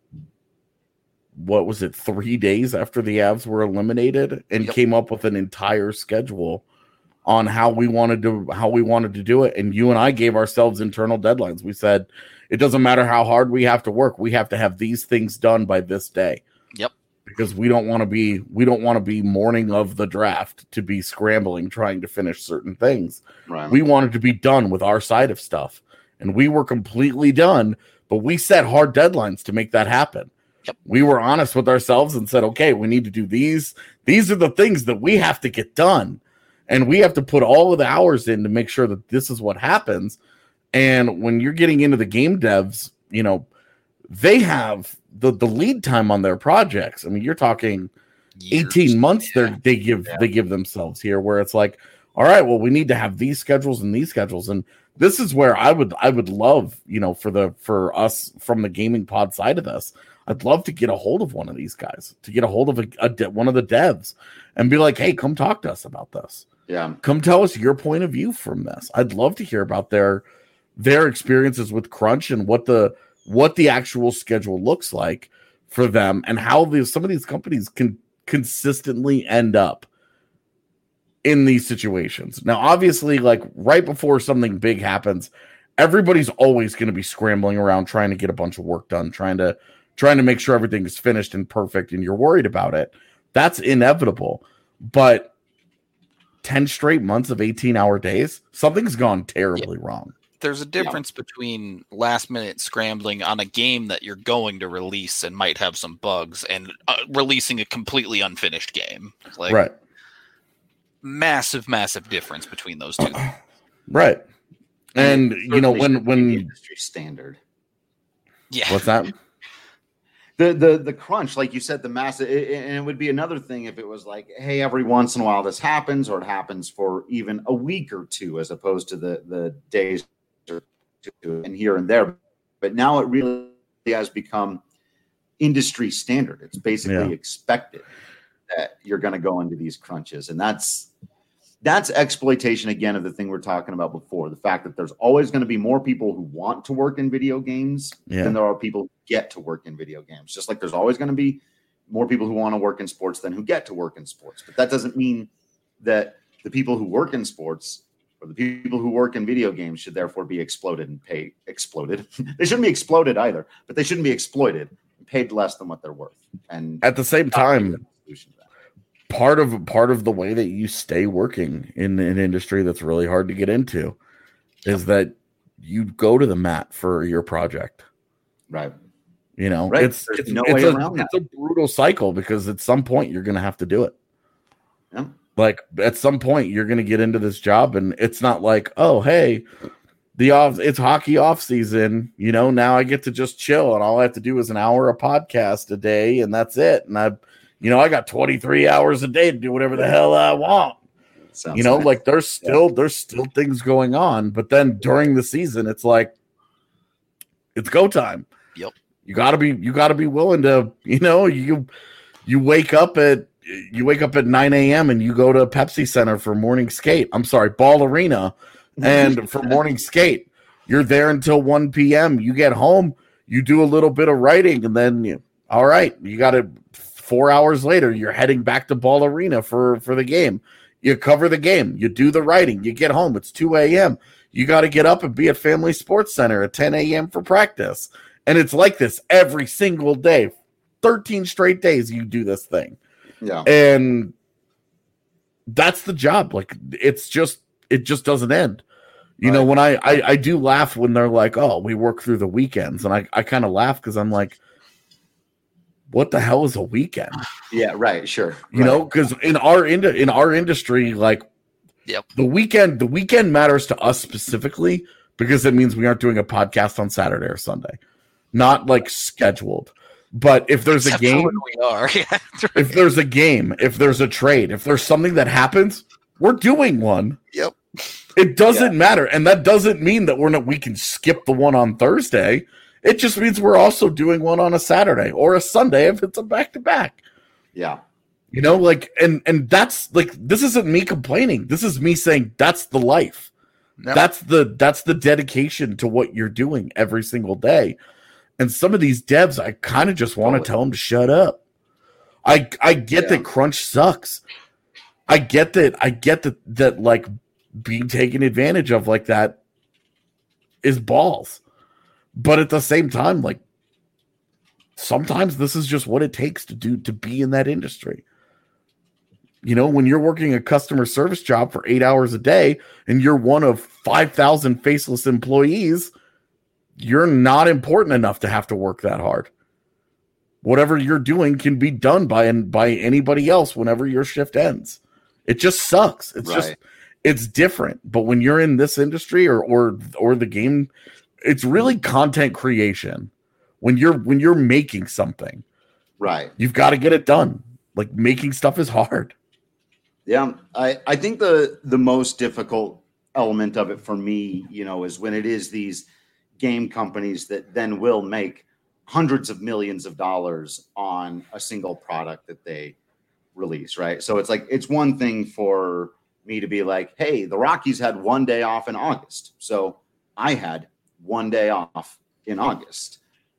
what was it, 3 days after the Avs were eliminated, and came up with an entire schedule on how we wanted to do it. And you and I gave ourselves internal deadlines. We said, it doesn't matter how hard we have to work. We have to have these things done by this day. Yep. Because we don't want to be morning of the draft to be scrambling, trying to finish certain things. Right. We wanted to be done with our side of stuff, and we were completely done, but we set hard deadlines to make that happen. Yep. We were honest with ourselves and said, okay, we need to do these. These are the things that we have to get done. And we have to put all of the hours in to make sure that this is what happens. And when you're getting into the game devs, they have the lead time on their projects. I mean, you're talking years. 18 months they give themselves here, where it's like, all right, well, we need to have these schedules and these schedules. And this is where I would love, for us from the gaming pod side of this, I'd love to get a hold of one of these guys, to get a hold of one of the devs and be like, hey, come talk to us about this. Yeah. Come tell us your point of view from this. I'd love to hear about their experiences with Crunch and what the actual schedule looks like for them, and how some of these companies can consistently end up in these situations. Now, obviously, like right before something big happens, everybody's always going to be scrambling around trying to get a bunch of work done, trying to make sure everything is finished and perfect, and you're worried about it. That's inevitable. But 10 straight months of 18-hour days, something's gone terribly wrong. There's a difference between last-minute scrambling on a game that you're going to release and might have some bugs, and releasing a completely unfinished game. Like, right. Massive, massive difference between those two. Right. And, when industry standard. Yeah. What's that? The crunch, like you said, the massive, and it would be another thing if it was like, hey, every once in a while this happens, or it happens for even a week or two, as opposed to the days or two and here and there. But now it really has become industry standard. It's basically expected that you're going to go into these crunches, and that's exploitation again of the thing we're talking about before. The fact that there's always going to be more people who want to work in video games than there are people who get to work in video games. Just like there's always going to be more people who want to work in sports than who get to work in sports. But that doesn't mean that the people who work in sports or the people who work in video games should therefore be exploded. They shouldn't be exploded either, but they shouldn't be exploited and paid less than what they're worth. And at the same time, part of the way that you stay working in an industry that's really hard to get into is that you go to the mat for your project. Right. Right. It's a brutal cycle, because at some point you're going to have to do it. Yeah. Like at some point you're going to get into this job, and it's not like, oh, hey, it's hockey off season. Now I get to just chill, and all I have to do is an hour of podcast a day, and that's it. And I got 23 hours a day to do whatever the hell I want. Sounds nice. Like there's still things going on, but then during the season, it's like, it's go time. Yep. You gotta be willing to, you wake up at 9 a.m. and you go to Pepsi Center for morning skate. I'm sorry, Ball Arena. And for morning skate, you're there until 1 p.m. You get home, you do a little bit of writing, and then all right, you got to 4 hours later, you're heading back to Ball Arena for the game. You cover the game, you do the writing, you get home, it's 2 a.m. You got to get up and be at Family Sports Center at 10 a.m. for practice. And it's like this every single day. 13 straight days you do this thing. Yeah. And that's the job. Like it just doesn't end. When I do laugh when they're like, oh, we work through the weekends. And I kind of laugh because I'm like, what the hell is a weekend? Yeah, right, sure. Because in our industry, like, the weekend matters to us specifically because it means we aren't doing a podcast on Saturday or Sunday, not like scheduled. But if there's a game, we are. Yeah, if there's a game, if there's a trade, if there's something that happens, we're doing one. Yep. It doesn't matter, and that doesn't mean that we can skip the one on Thursday. It just means we're also doing one on a Saturday or a Sunday if it's a back-to-back. Yeah. You know, like, and that's like, this isn't me complaining. This is me saying that's the life. No. That's the dedication to what you're doing every single day. And some of these devs, I kind of just want to tell them to shut up. I get that crunch sucks. I get that like being taken advantage of like that is balls. But at the same time, like, sometimes this is just what it takes to be in that industry. You know, when you're working a customer service job for 8 hours a day and you're one of 5,000 faceless employees, you're not important enough to have to work that hard. Whatever you're doing can be done by anybody else whenever your shift ends. It just sucks. It's different. But when you're in this industry or the game, it's really content creation. When you're making something, right, you've got to get it done. Like, making stuff is hard. Yeah, I think the most difficult element of it for me, you know, is when it is these game companies that then will make hundreds of millions of dollars on a single product that they release, right? So it's like, it's one thing for me to be like, hey, the Rockies had one day off in August, so I had one day off in August.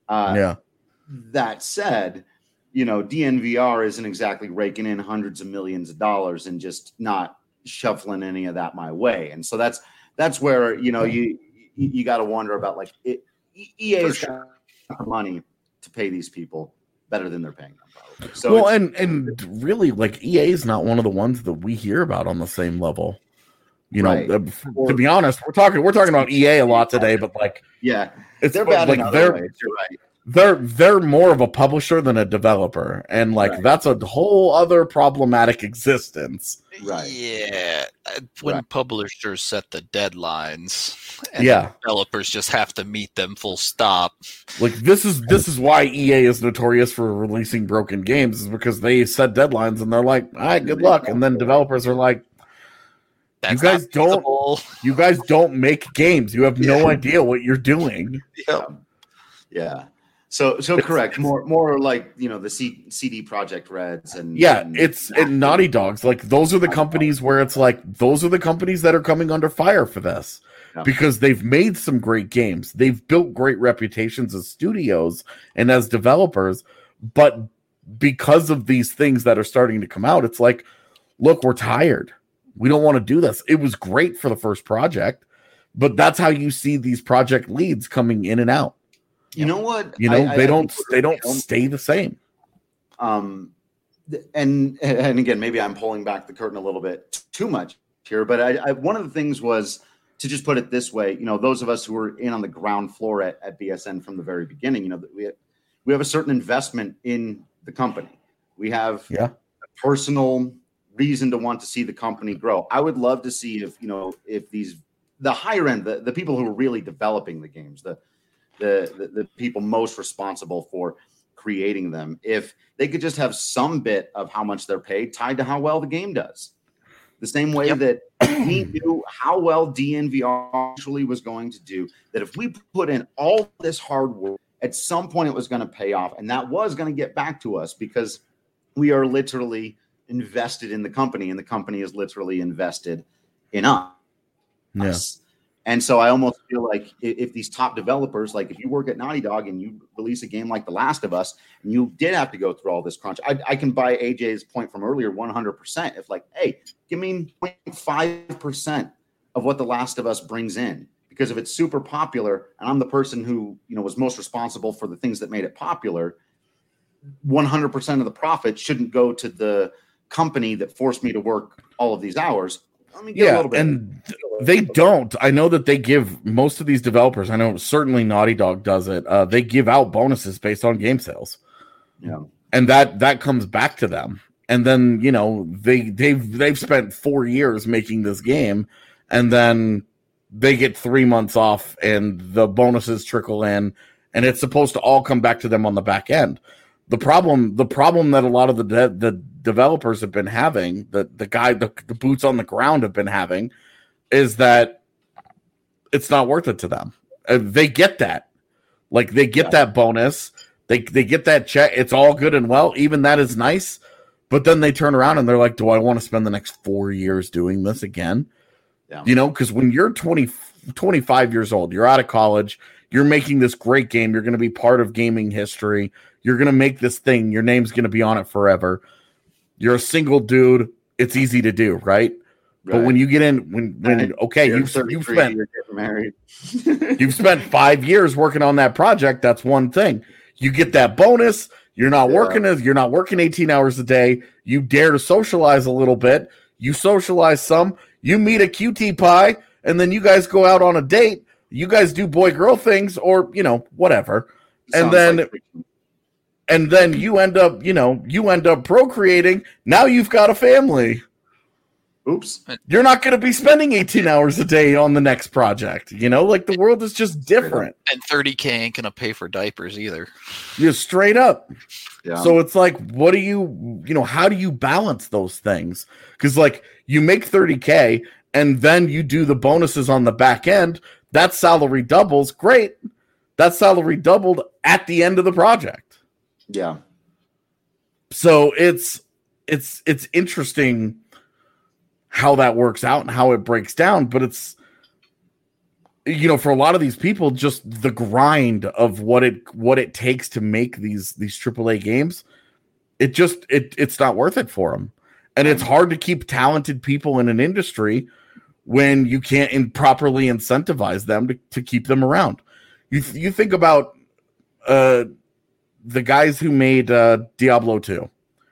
That said, you know, DNVR isn't exactly raking in hundreds of millions of dollars and just not shuffling any of that my way. And so that's where, you know, you got to wonder about, like, EA's got money to pay these people better than they're paying them, probably. So well, and really, like, EA is not one of the ones that we hear about on the same level. You know, to be honest, we're talking about EA a lot today, but like, they're bad in other ways. You're right. They're more of a publisher than a developer, and like that's a whole other problematic existence. Right. Yeah. When publishers set the deadlines, and developers just have to meet them full stop. Like, this is why EA is notorious for releasing broken games, is because they set deadlines and they're like, all right, good luck. And then developers are like, you guys don't make games. You have no idea what you're doing. Yeah. So correct. More like, you know, the CD Projekt Reds and and Naughty Dogs. Like, those are the companies where it's like, those are the companies that are coming under fire for this because they've made some great games. They've built great reputations as studios and as developers, but because of these things that are starting to come out, it's like, look, we're tired. We don't want to do this. It was great for the first project, but that's how you see these project leads coming in and out. You know what? You know, they don't stay the same. And again, maybe I'm pulling back the curtain a little bit too much here, but I one of the things was to just put it this way. You know, those of us who were in on the ground floor at BSN from the very beginning, you know, that we have a certain investment in the company. We have a personal reason to want to see the company grow. I would love to see if the higher end, the people who are really developing the games, the people most responsible for creating them, if they could just have some bit of how much they're paid tied to how well the game does. The same way that we knew how well DNVR actually was going to do, that if we put in all this hard work, at some point it was going to pay off, and that was going to get back to us because we are literally invested in the company, and the company is literally invested in us. Yeah. And so I almost feel like if these top developers, like if you work at Naughty Dog and you release a game like The Last of Us, and you did have to go through all this crunch, I can buy AJ's point from earlier 100%. If like, hey, give me 0.5% of what The Last of Us brings in, because if it's super popular and I'm the person who, you know, was most responsible for the things that made it popular, 100% of the profit shouldn't go to the company that forced me to work all of these hours. Let me get a little bit. And they don't. I know that they give most of these developers, I know certainly Naughty Dog does it. They give out bonuses based on game sales. Yeah. And that comes back to them. And then, you know, they've spent 4 years making this game, and then they get 3 months off and the bonuses trickle in, and it's supposed to all come back to them on the back end. The problem that a lot of the developers have been having, the boots on the ground have been having, is that it's not worth it to them. They get that. Like, they get that bonus. They get that check. It's all good and well. Even that is nice. But then they turn around and they're like, do I want to spend the next 4 years doing this again? Yeah. You know, because when you're 25 years old, you're out of college, you're making this great game, you're going to be part of gaming history, you're going to make this thing, your name's going to be on it forever. You're a single dude. It's easy to do, right? But when you get in, when okay, you've spent married. You've spent 5 years working on that project. That's one thing. You get that bonus. You're not working 18 hours a day. You dare to socialize a little bit. You socialize some. You meet a QT pie, and then you guys go out on a date. You guys do boy-girl things, or whatever. And then you end up procreating. Now you've got a family. Oops. You're not going to be spending 18 hours a day on the next project. Like, the world is just different. And $30K ain't going to pay for diapers either. Just straight up. Yeah. So it's like, what do how do you balance those things? Because, like, you make $30K and then you do the bonuses on the back end. That salary doubles. Great. That salary doubled at the end of the project. Yeah. So it's interesting how that works out and how it breaks down, but it's for a lot of these people, just the grind of what it takes to make these AAA games, it's not worth it for them. And it's hard to keep talented people in an industry when you can't improperly incentivize them to keep them around. You think about the guys who made Diablo 2.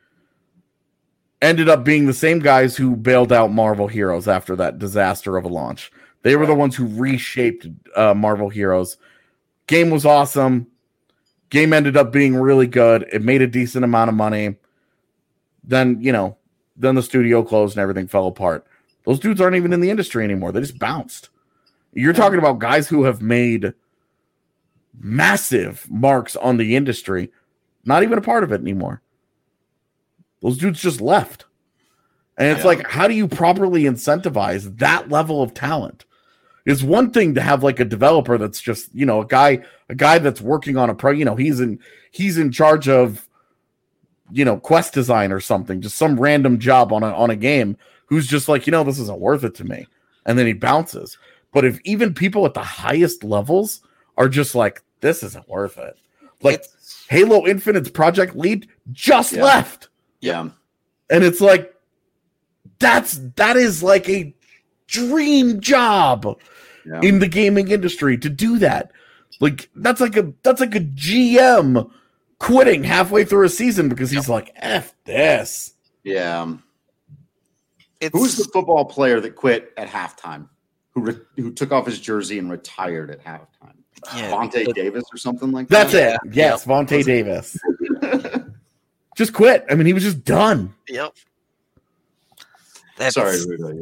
Ended up being the same guys who bailed out Marvel Heroes after that disaster of a launch. They were the ones who reshaped Marvel Heroes. Game was awesome. Game ended up being really good. It made a decent amount of money. Then the studio closed and everything fell apart. Those dudes aren't even in the industry anymore. They just bounced. You're talking about guys who have made massive marks on the industry, not even a part of it anymore. Those dudes just left. And it's like, how do you properly incentivize that level of talent? It's one thing to have like a developer that's just, a guy that's working on a he's in charge of, quest design or something, just some random job on a game, who's just like, this isn't worth it to me. And then he bounces. But if even people at the highest levels are just like, this isn't worth it. Like Halo Infinite's project lead just left. Yeah. And it's like, that is like a dream job in the gaming industry to do that. Like, that's like a GM quitting halfway through a season because he's like, F this. Yeah. Who's the football player that quit at halftime? Who took off his jersey and retired at halftime? Vontae Davis or something like that? That's it. Yes, Vontae Davis. Just quit. I mean, he was just done. Yep. Sorry,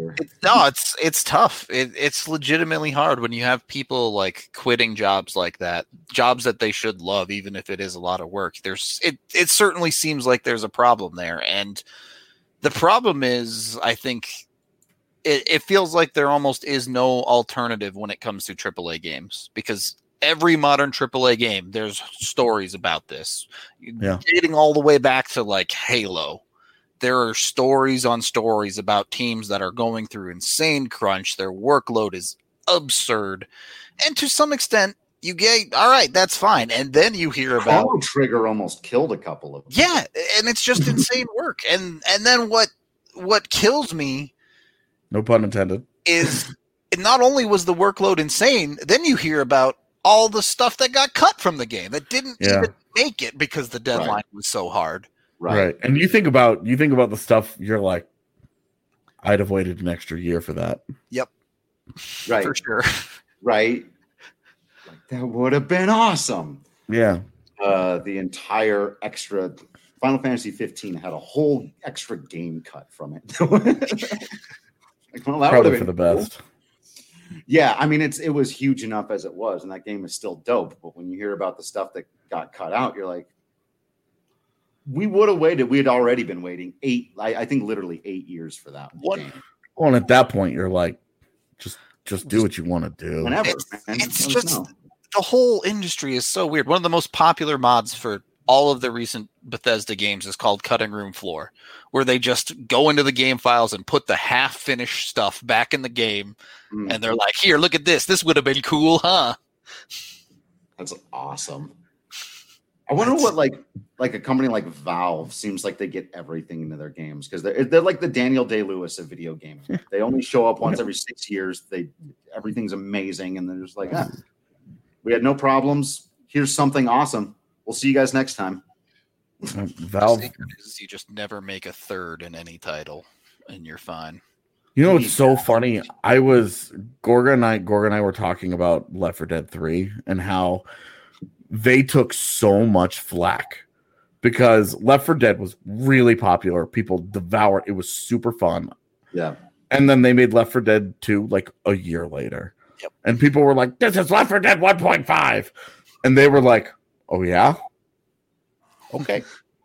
it's tough. It's legitimately hard when you have people like quitting jobs like that, jobs that they should love, even if it is a lot of work. It certainly seems like there's a problem there, and the problem is, I think it feels like there almost is no alternative when it comes to AAA games, because every modern AAA game, there's stories about this. Dating all the way back to like Halo. There are stories on stories about teams that are going through insane crunch. Their workload is absurd. And to some extent, you get, all right, that's fine. And then you hear about Chrono Trigger almost killed a couple of them. Yeah, and it's just insane work. And then what kills me, no pun intended, is not only was the workload insane, then you hear about all the stuff that got cut from the game that didn't even make it because the deadline was so hard. Right. And you think about the stuff, you're like, I'd have waited an extra year for that. Yep. Right. For sure. Right. Like, that would have been awesome. Yeah. The entire extra Final Fantasy 15 had a whole extra game cut from it. Like, well, that probably for the best. Yeah, I mean, it was huge enough as it was, and that game is still dope. But when you hear about the stuff that got cut out, you're like, we would have waited. We had already been waiting I think literally 8 years for that game. Well, and at that point, you're like, Just do what you want to do. Whenever. It's just the whole industry is so weird. One of the most popular mods for all of the recent Bethesda games is called Cutting Room Floor, where they just go into the game files and put the half-finished stuff back in the game, and they're like, "Here, look at this. This would have been cool, huh?" That's awesome. I wonder what like a company like Valve seems like they get everything into their games, because they're like the Daniel Day-Lewis of video gaming. They only show up once every 6 years. Everything's amazing, and they're just like, we had no problems. Here's something awesome. We'll see you guys next time. Valve, you just never make a third in any title, and you're fine. You know, it's so funny. Gorga and I were talking about Left 4 Dead 3 and how they took so much flack because Left 4 Dead was really popular. People devoured it. It was super fun. Yeah. And then they made Left 4 Dead 2 like a year later. Yep. And people were like, this is Left 4 Dead 1.5. And they were like, oh, yeah? Okay.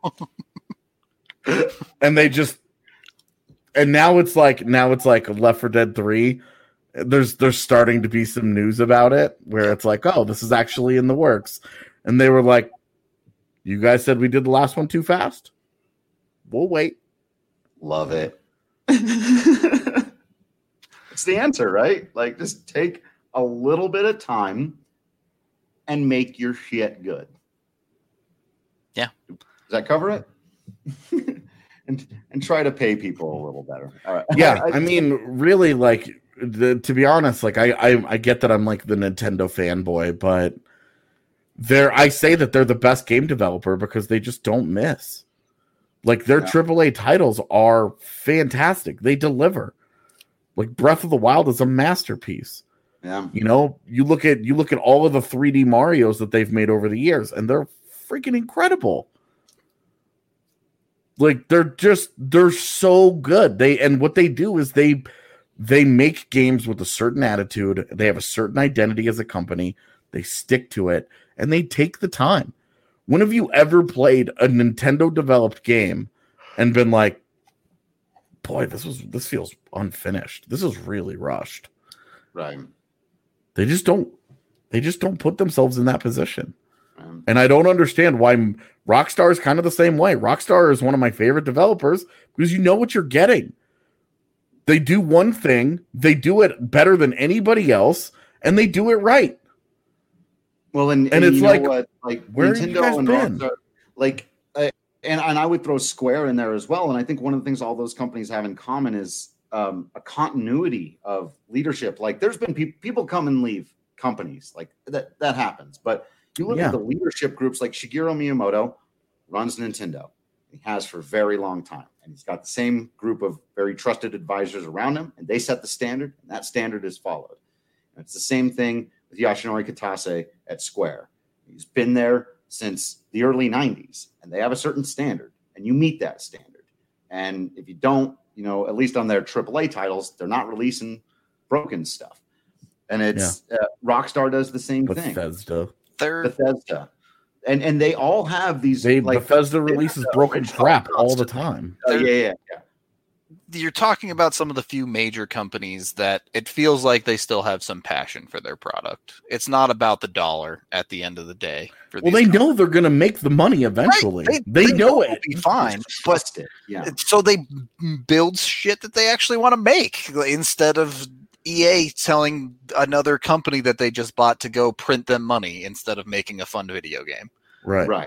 And they just... And now it's like Left 4 Dead 3. There's starting to be some news about it where it's like, oh, this is actually in the works. And they were like, you guys said we did the last one too fast? We'll wait. Love it. It's the answer, right? Like, just take a little bit of time and make your shit good. Yeah. Does that cover it? and try to pay people a little better. All right. Yeah, I mean, really, like, to be honest, like, I get that I'm like the Nintendo fanboy, but I say that they're the best game developer because they just don't miss. Like, their AAA titles are fantastic. They deliver. Like, Breath of the Wild is a masterpiece. Yeah. You know, you look at all of the 3D Marios that they've made over the years, and they're freaking incredible. Like, they're so good. What they do is they make games with a certain attitude. They have a certain identity as a company. They stick to it, and they take the time. When have you ever played a Nintendo developed game and been like, boy, this feels unfinished. This is really rushed. Right. They just don't put themselves in that position. And I don't understand why Rockstar is kind of the same way. Rockstar is one of my favorite developers because you know what you're getting. They do one thing, they do it better than anybody else, and they do it right. Well, and it's you like, know what? Like, where Nintendo and been? Rockstar, like, and I would throw Square in there as well. And I think one of the things all those companies have in common is a continuity of leadership. Like, there's been people come and leave companies, like that happens, but you look at the leadership groups, like Shigeru Miyamoto runs Nintendo. He has for a very long time. And he's got the same group of very trusted advisors around him, and they set the standard, and that standard is followed. And it's the same thing with Yoshinori Kitase at Square. He's been there since the early 90s, and they have a certain standard, and you meet that standard. And if you don't, you know, at least on their AAA titles, they're not releasing broken stuff. And it's Rockstar does the same thing. Bethesda. And they all have these. Bethesda releases broken crap all the time. Yeah. You're talking about some of the few major companies that it feels like they still have some passion for their product. It's not about the dollar at the end of the day. They know they're going to make the money eventually. Right. They know it. Be fine, but so they build shit that they actually want to make instead of EA telling another company that they just bought to go print them money instead of making a fun video game. Right.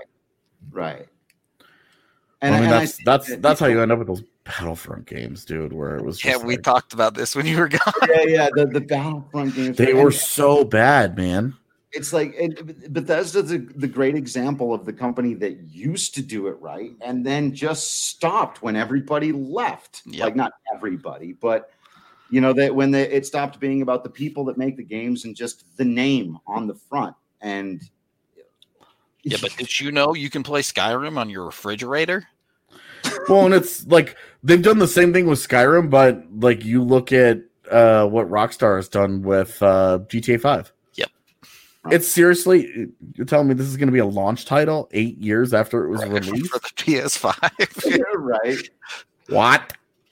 And I mean, that's how you end up with those Battlefront games, dude, where it was just we talked about this when you were gone. The Battlefront games. They were so bad, man. It's like Bethesda's the great example of the company that used to do it right and then just stopped when everybody left. Yep. Like, not everybody, but you know, that when it stopped being about the people that make the games and just the name on the front. And but did you know you can play Skyrim on your refrigerator? Well, and it's like they've done the same thing with Skyrim, but like you look at what Rockstar has done with GTA 5. Yep. It's seriously, you're telling me this is going to be a launch title 8 years after it was released? For the PS5. Yeah, right. What?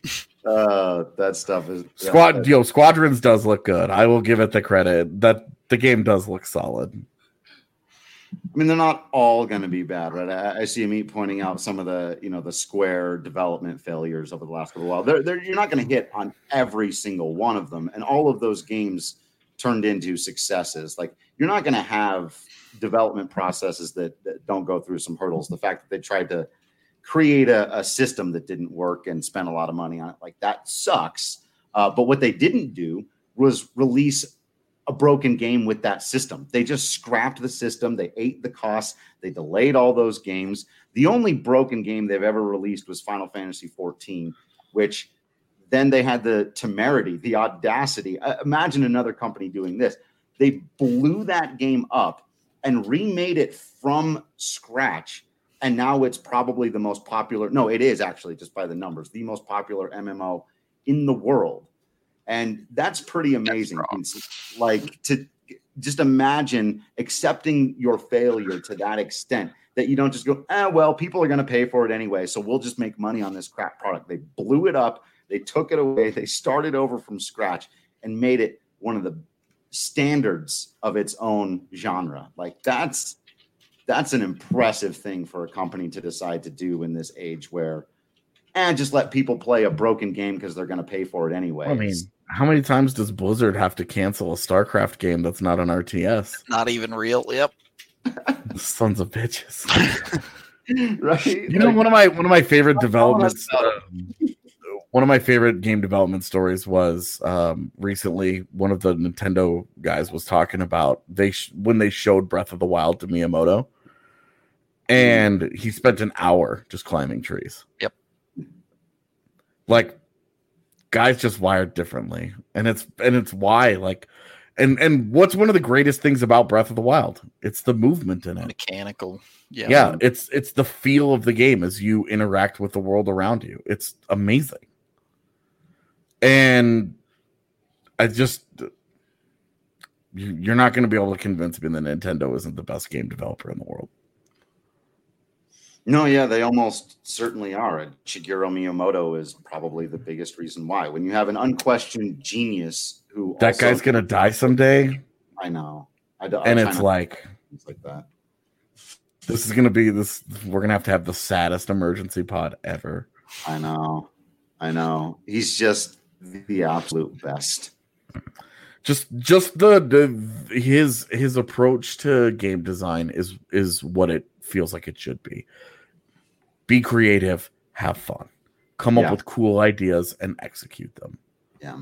That stuff is Squadrons does look good. I will give it the credit that the game does look solid. I mean, they're not all going to be bad, right? I see Amit pointing out some of the, the Square development failures over the last little while. You're not going to hit on every single one of them, and all of those games turned into successes. Like, you're not going to have development processes that don't go through some hurdles. The fact that they tried to create a system that didn't work and spent a lot of money on it, like, that sucks. But what they didn't do was release a broken game with that system. They just scrapped the system. They ate the costs. They delayed all those games. The only broken game they've ever released was Final Fantasy XIV, which then they had the temerity, the audacity. Imagine another company doing this. They blew that game up and remade it from scratch. And now it's probably the most popular. No, it is actually, just by the numbers, the most popular MMO in the world. And that's pretty amazing. Like, to just imagine accepting your failure to that extent that you don't just go, well, people are going to pay for it anyway, so we'll just make money on this crap product. They blew it up. They took it away. They started over from scratch and made it one of the standards of its own genre. Like, that's an impressive thing for a company to decide to do in this age where, just let people play a broken game because they're going to pay for it anyway. I mean, how many times does Blizzard have to cancel a StarCraft game that's not an RTS? Not even real. Yep. Sons of bitches. Right? You know, one of my favorite developments. One of my favorite game development stories was recently. One of the Nintendo guys was talking about when they showed Breath of the Wild to Miyamoto, and he spent an hour just climbing trees. Yep. Like, guys just wired differently, and it's why, like, and what's one of the greatest things about Breath of the Wild? It's the movement in it. Mechanical. Yeah. It's the feel of the game as you interact with the world around you. It's amazing. And you're not going to be able to convince me that Nintendo isn't the best game developer in the world. No, yeah, they almost certainly are. And Shigeru Miyamoto is probably the biggest reason why. When you have an unquestioned genius who that guy's going to die someday. I know. And it's like that. This is going to be this. We're going to have the saddest emergency pod ever. I know. He's just the absolute best. Just his approach to game design is what it feels like it should be. Be creative, have fun, come up with cool ideas, and execute them. Yeah,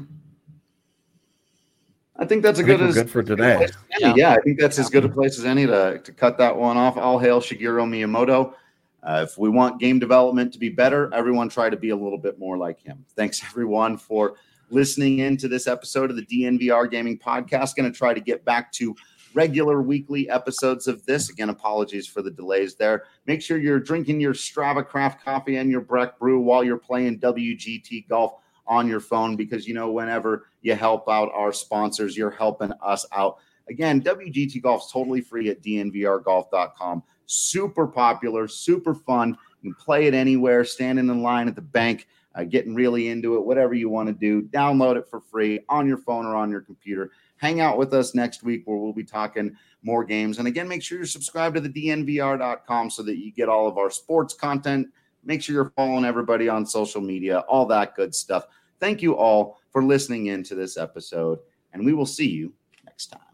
I think that's good for today. I think that's as good a place as any to cut that one off. All hail Shigeru Miyamoto. If we want game development to be better, everyone try to be a little bit more like him. Thanks, everyone, for listening in to this episode of the DNVR Gaming Podcast. Going to try to get back to regular weekly episodes of this. Again, apologies for the delays there. Make sure you're drinking your Strava craft coffee and your Breck brew while you're playing WGT Golf on your phone, because, whenever you help out our sponsors, you're helping us out. Again, WGT Golf is totally free at dnvrgolf.com. Super popular, super fun. You can play it anywhere, standing in line at the bank, getting really into it, whatever you want to do. Download it for free on your phone or on your computer. Hang out with us next week where we'll be talking more games. And again, make sure you're subscribed to the DNVR.com so that you get all of our sports content. Make sure you're following everybody on social media, all that good stuff. Thank you all for listening in to this episode, and we will see you next time.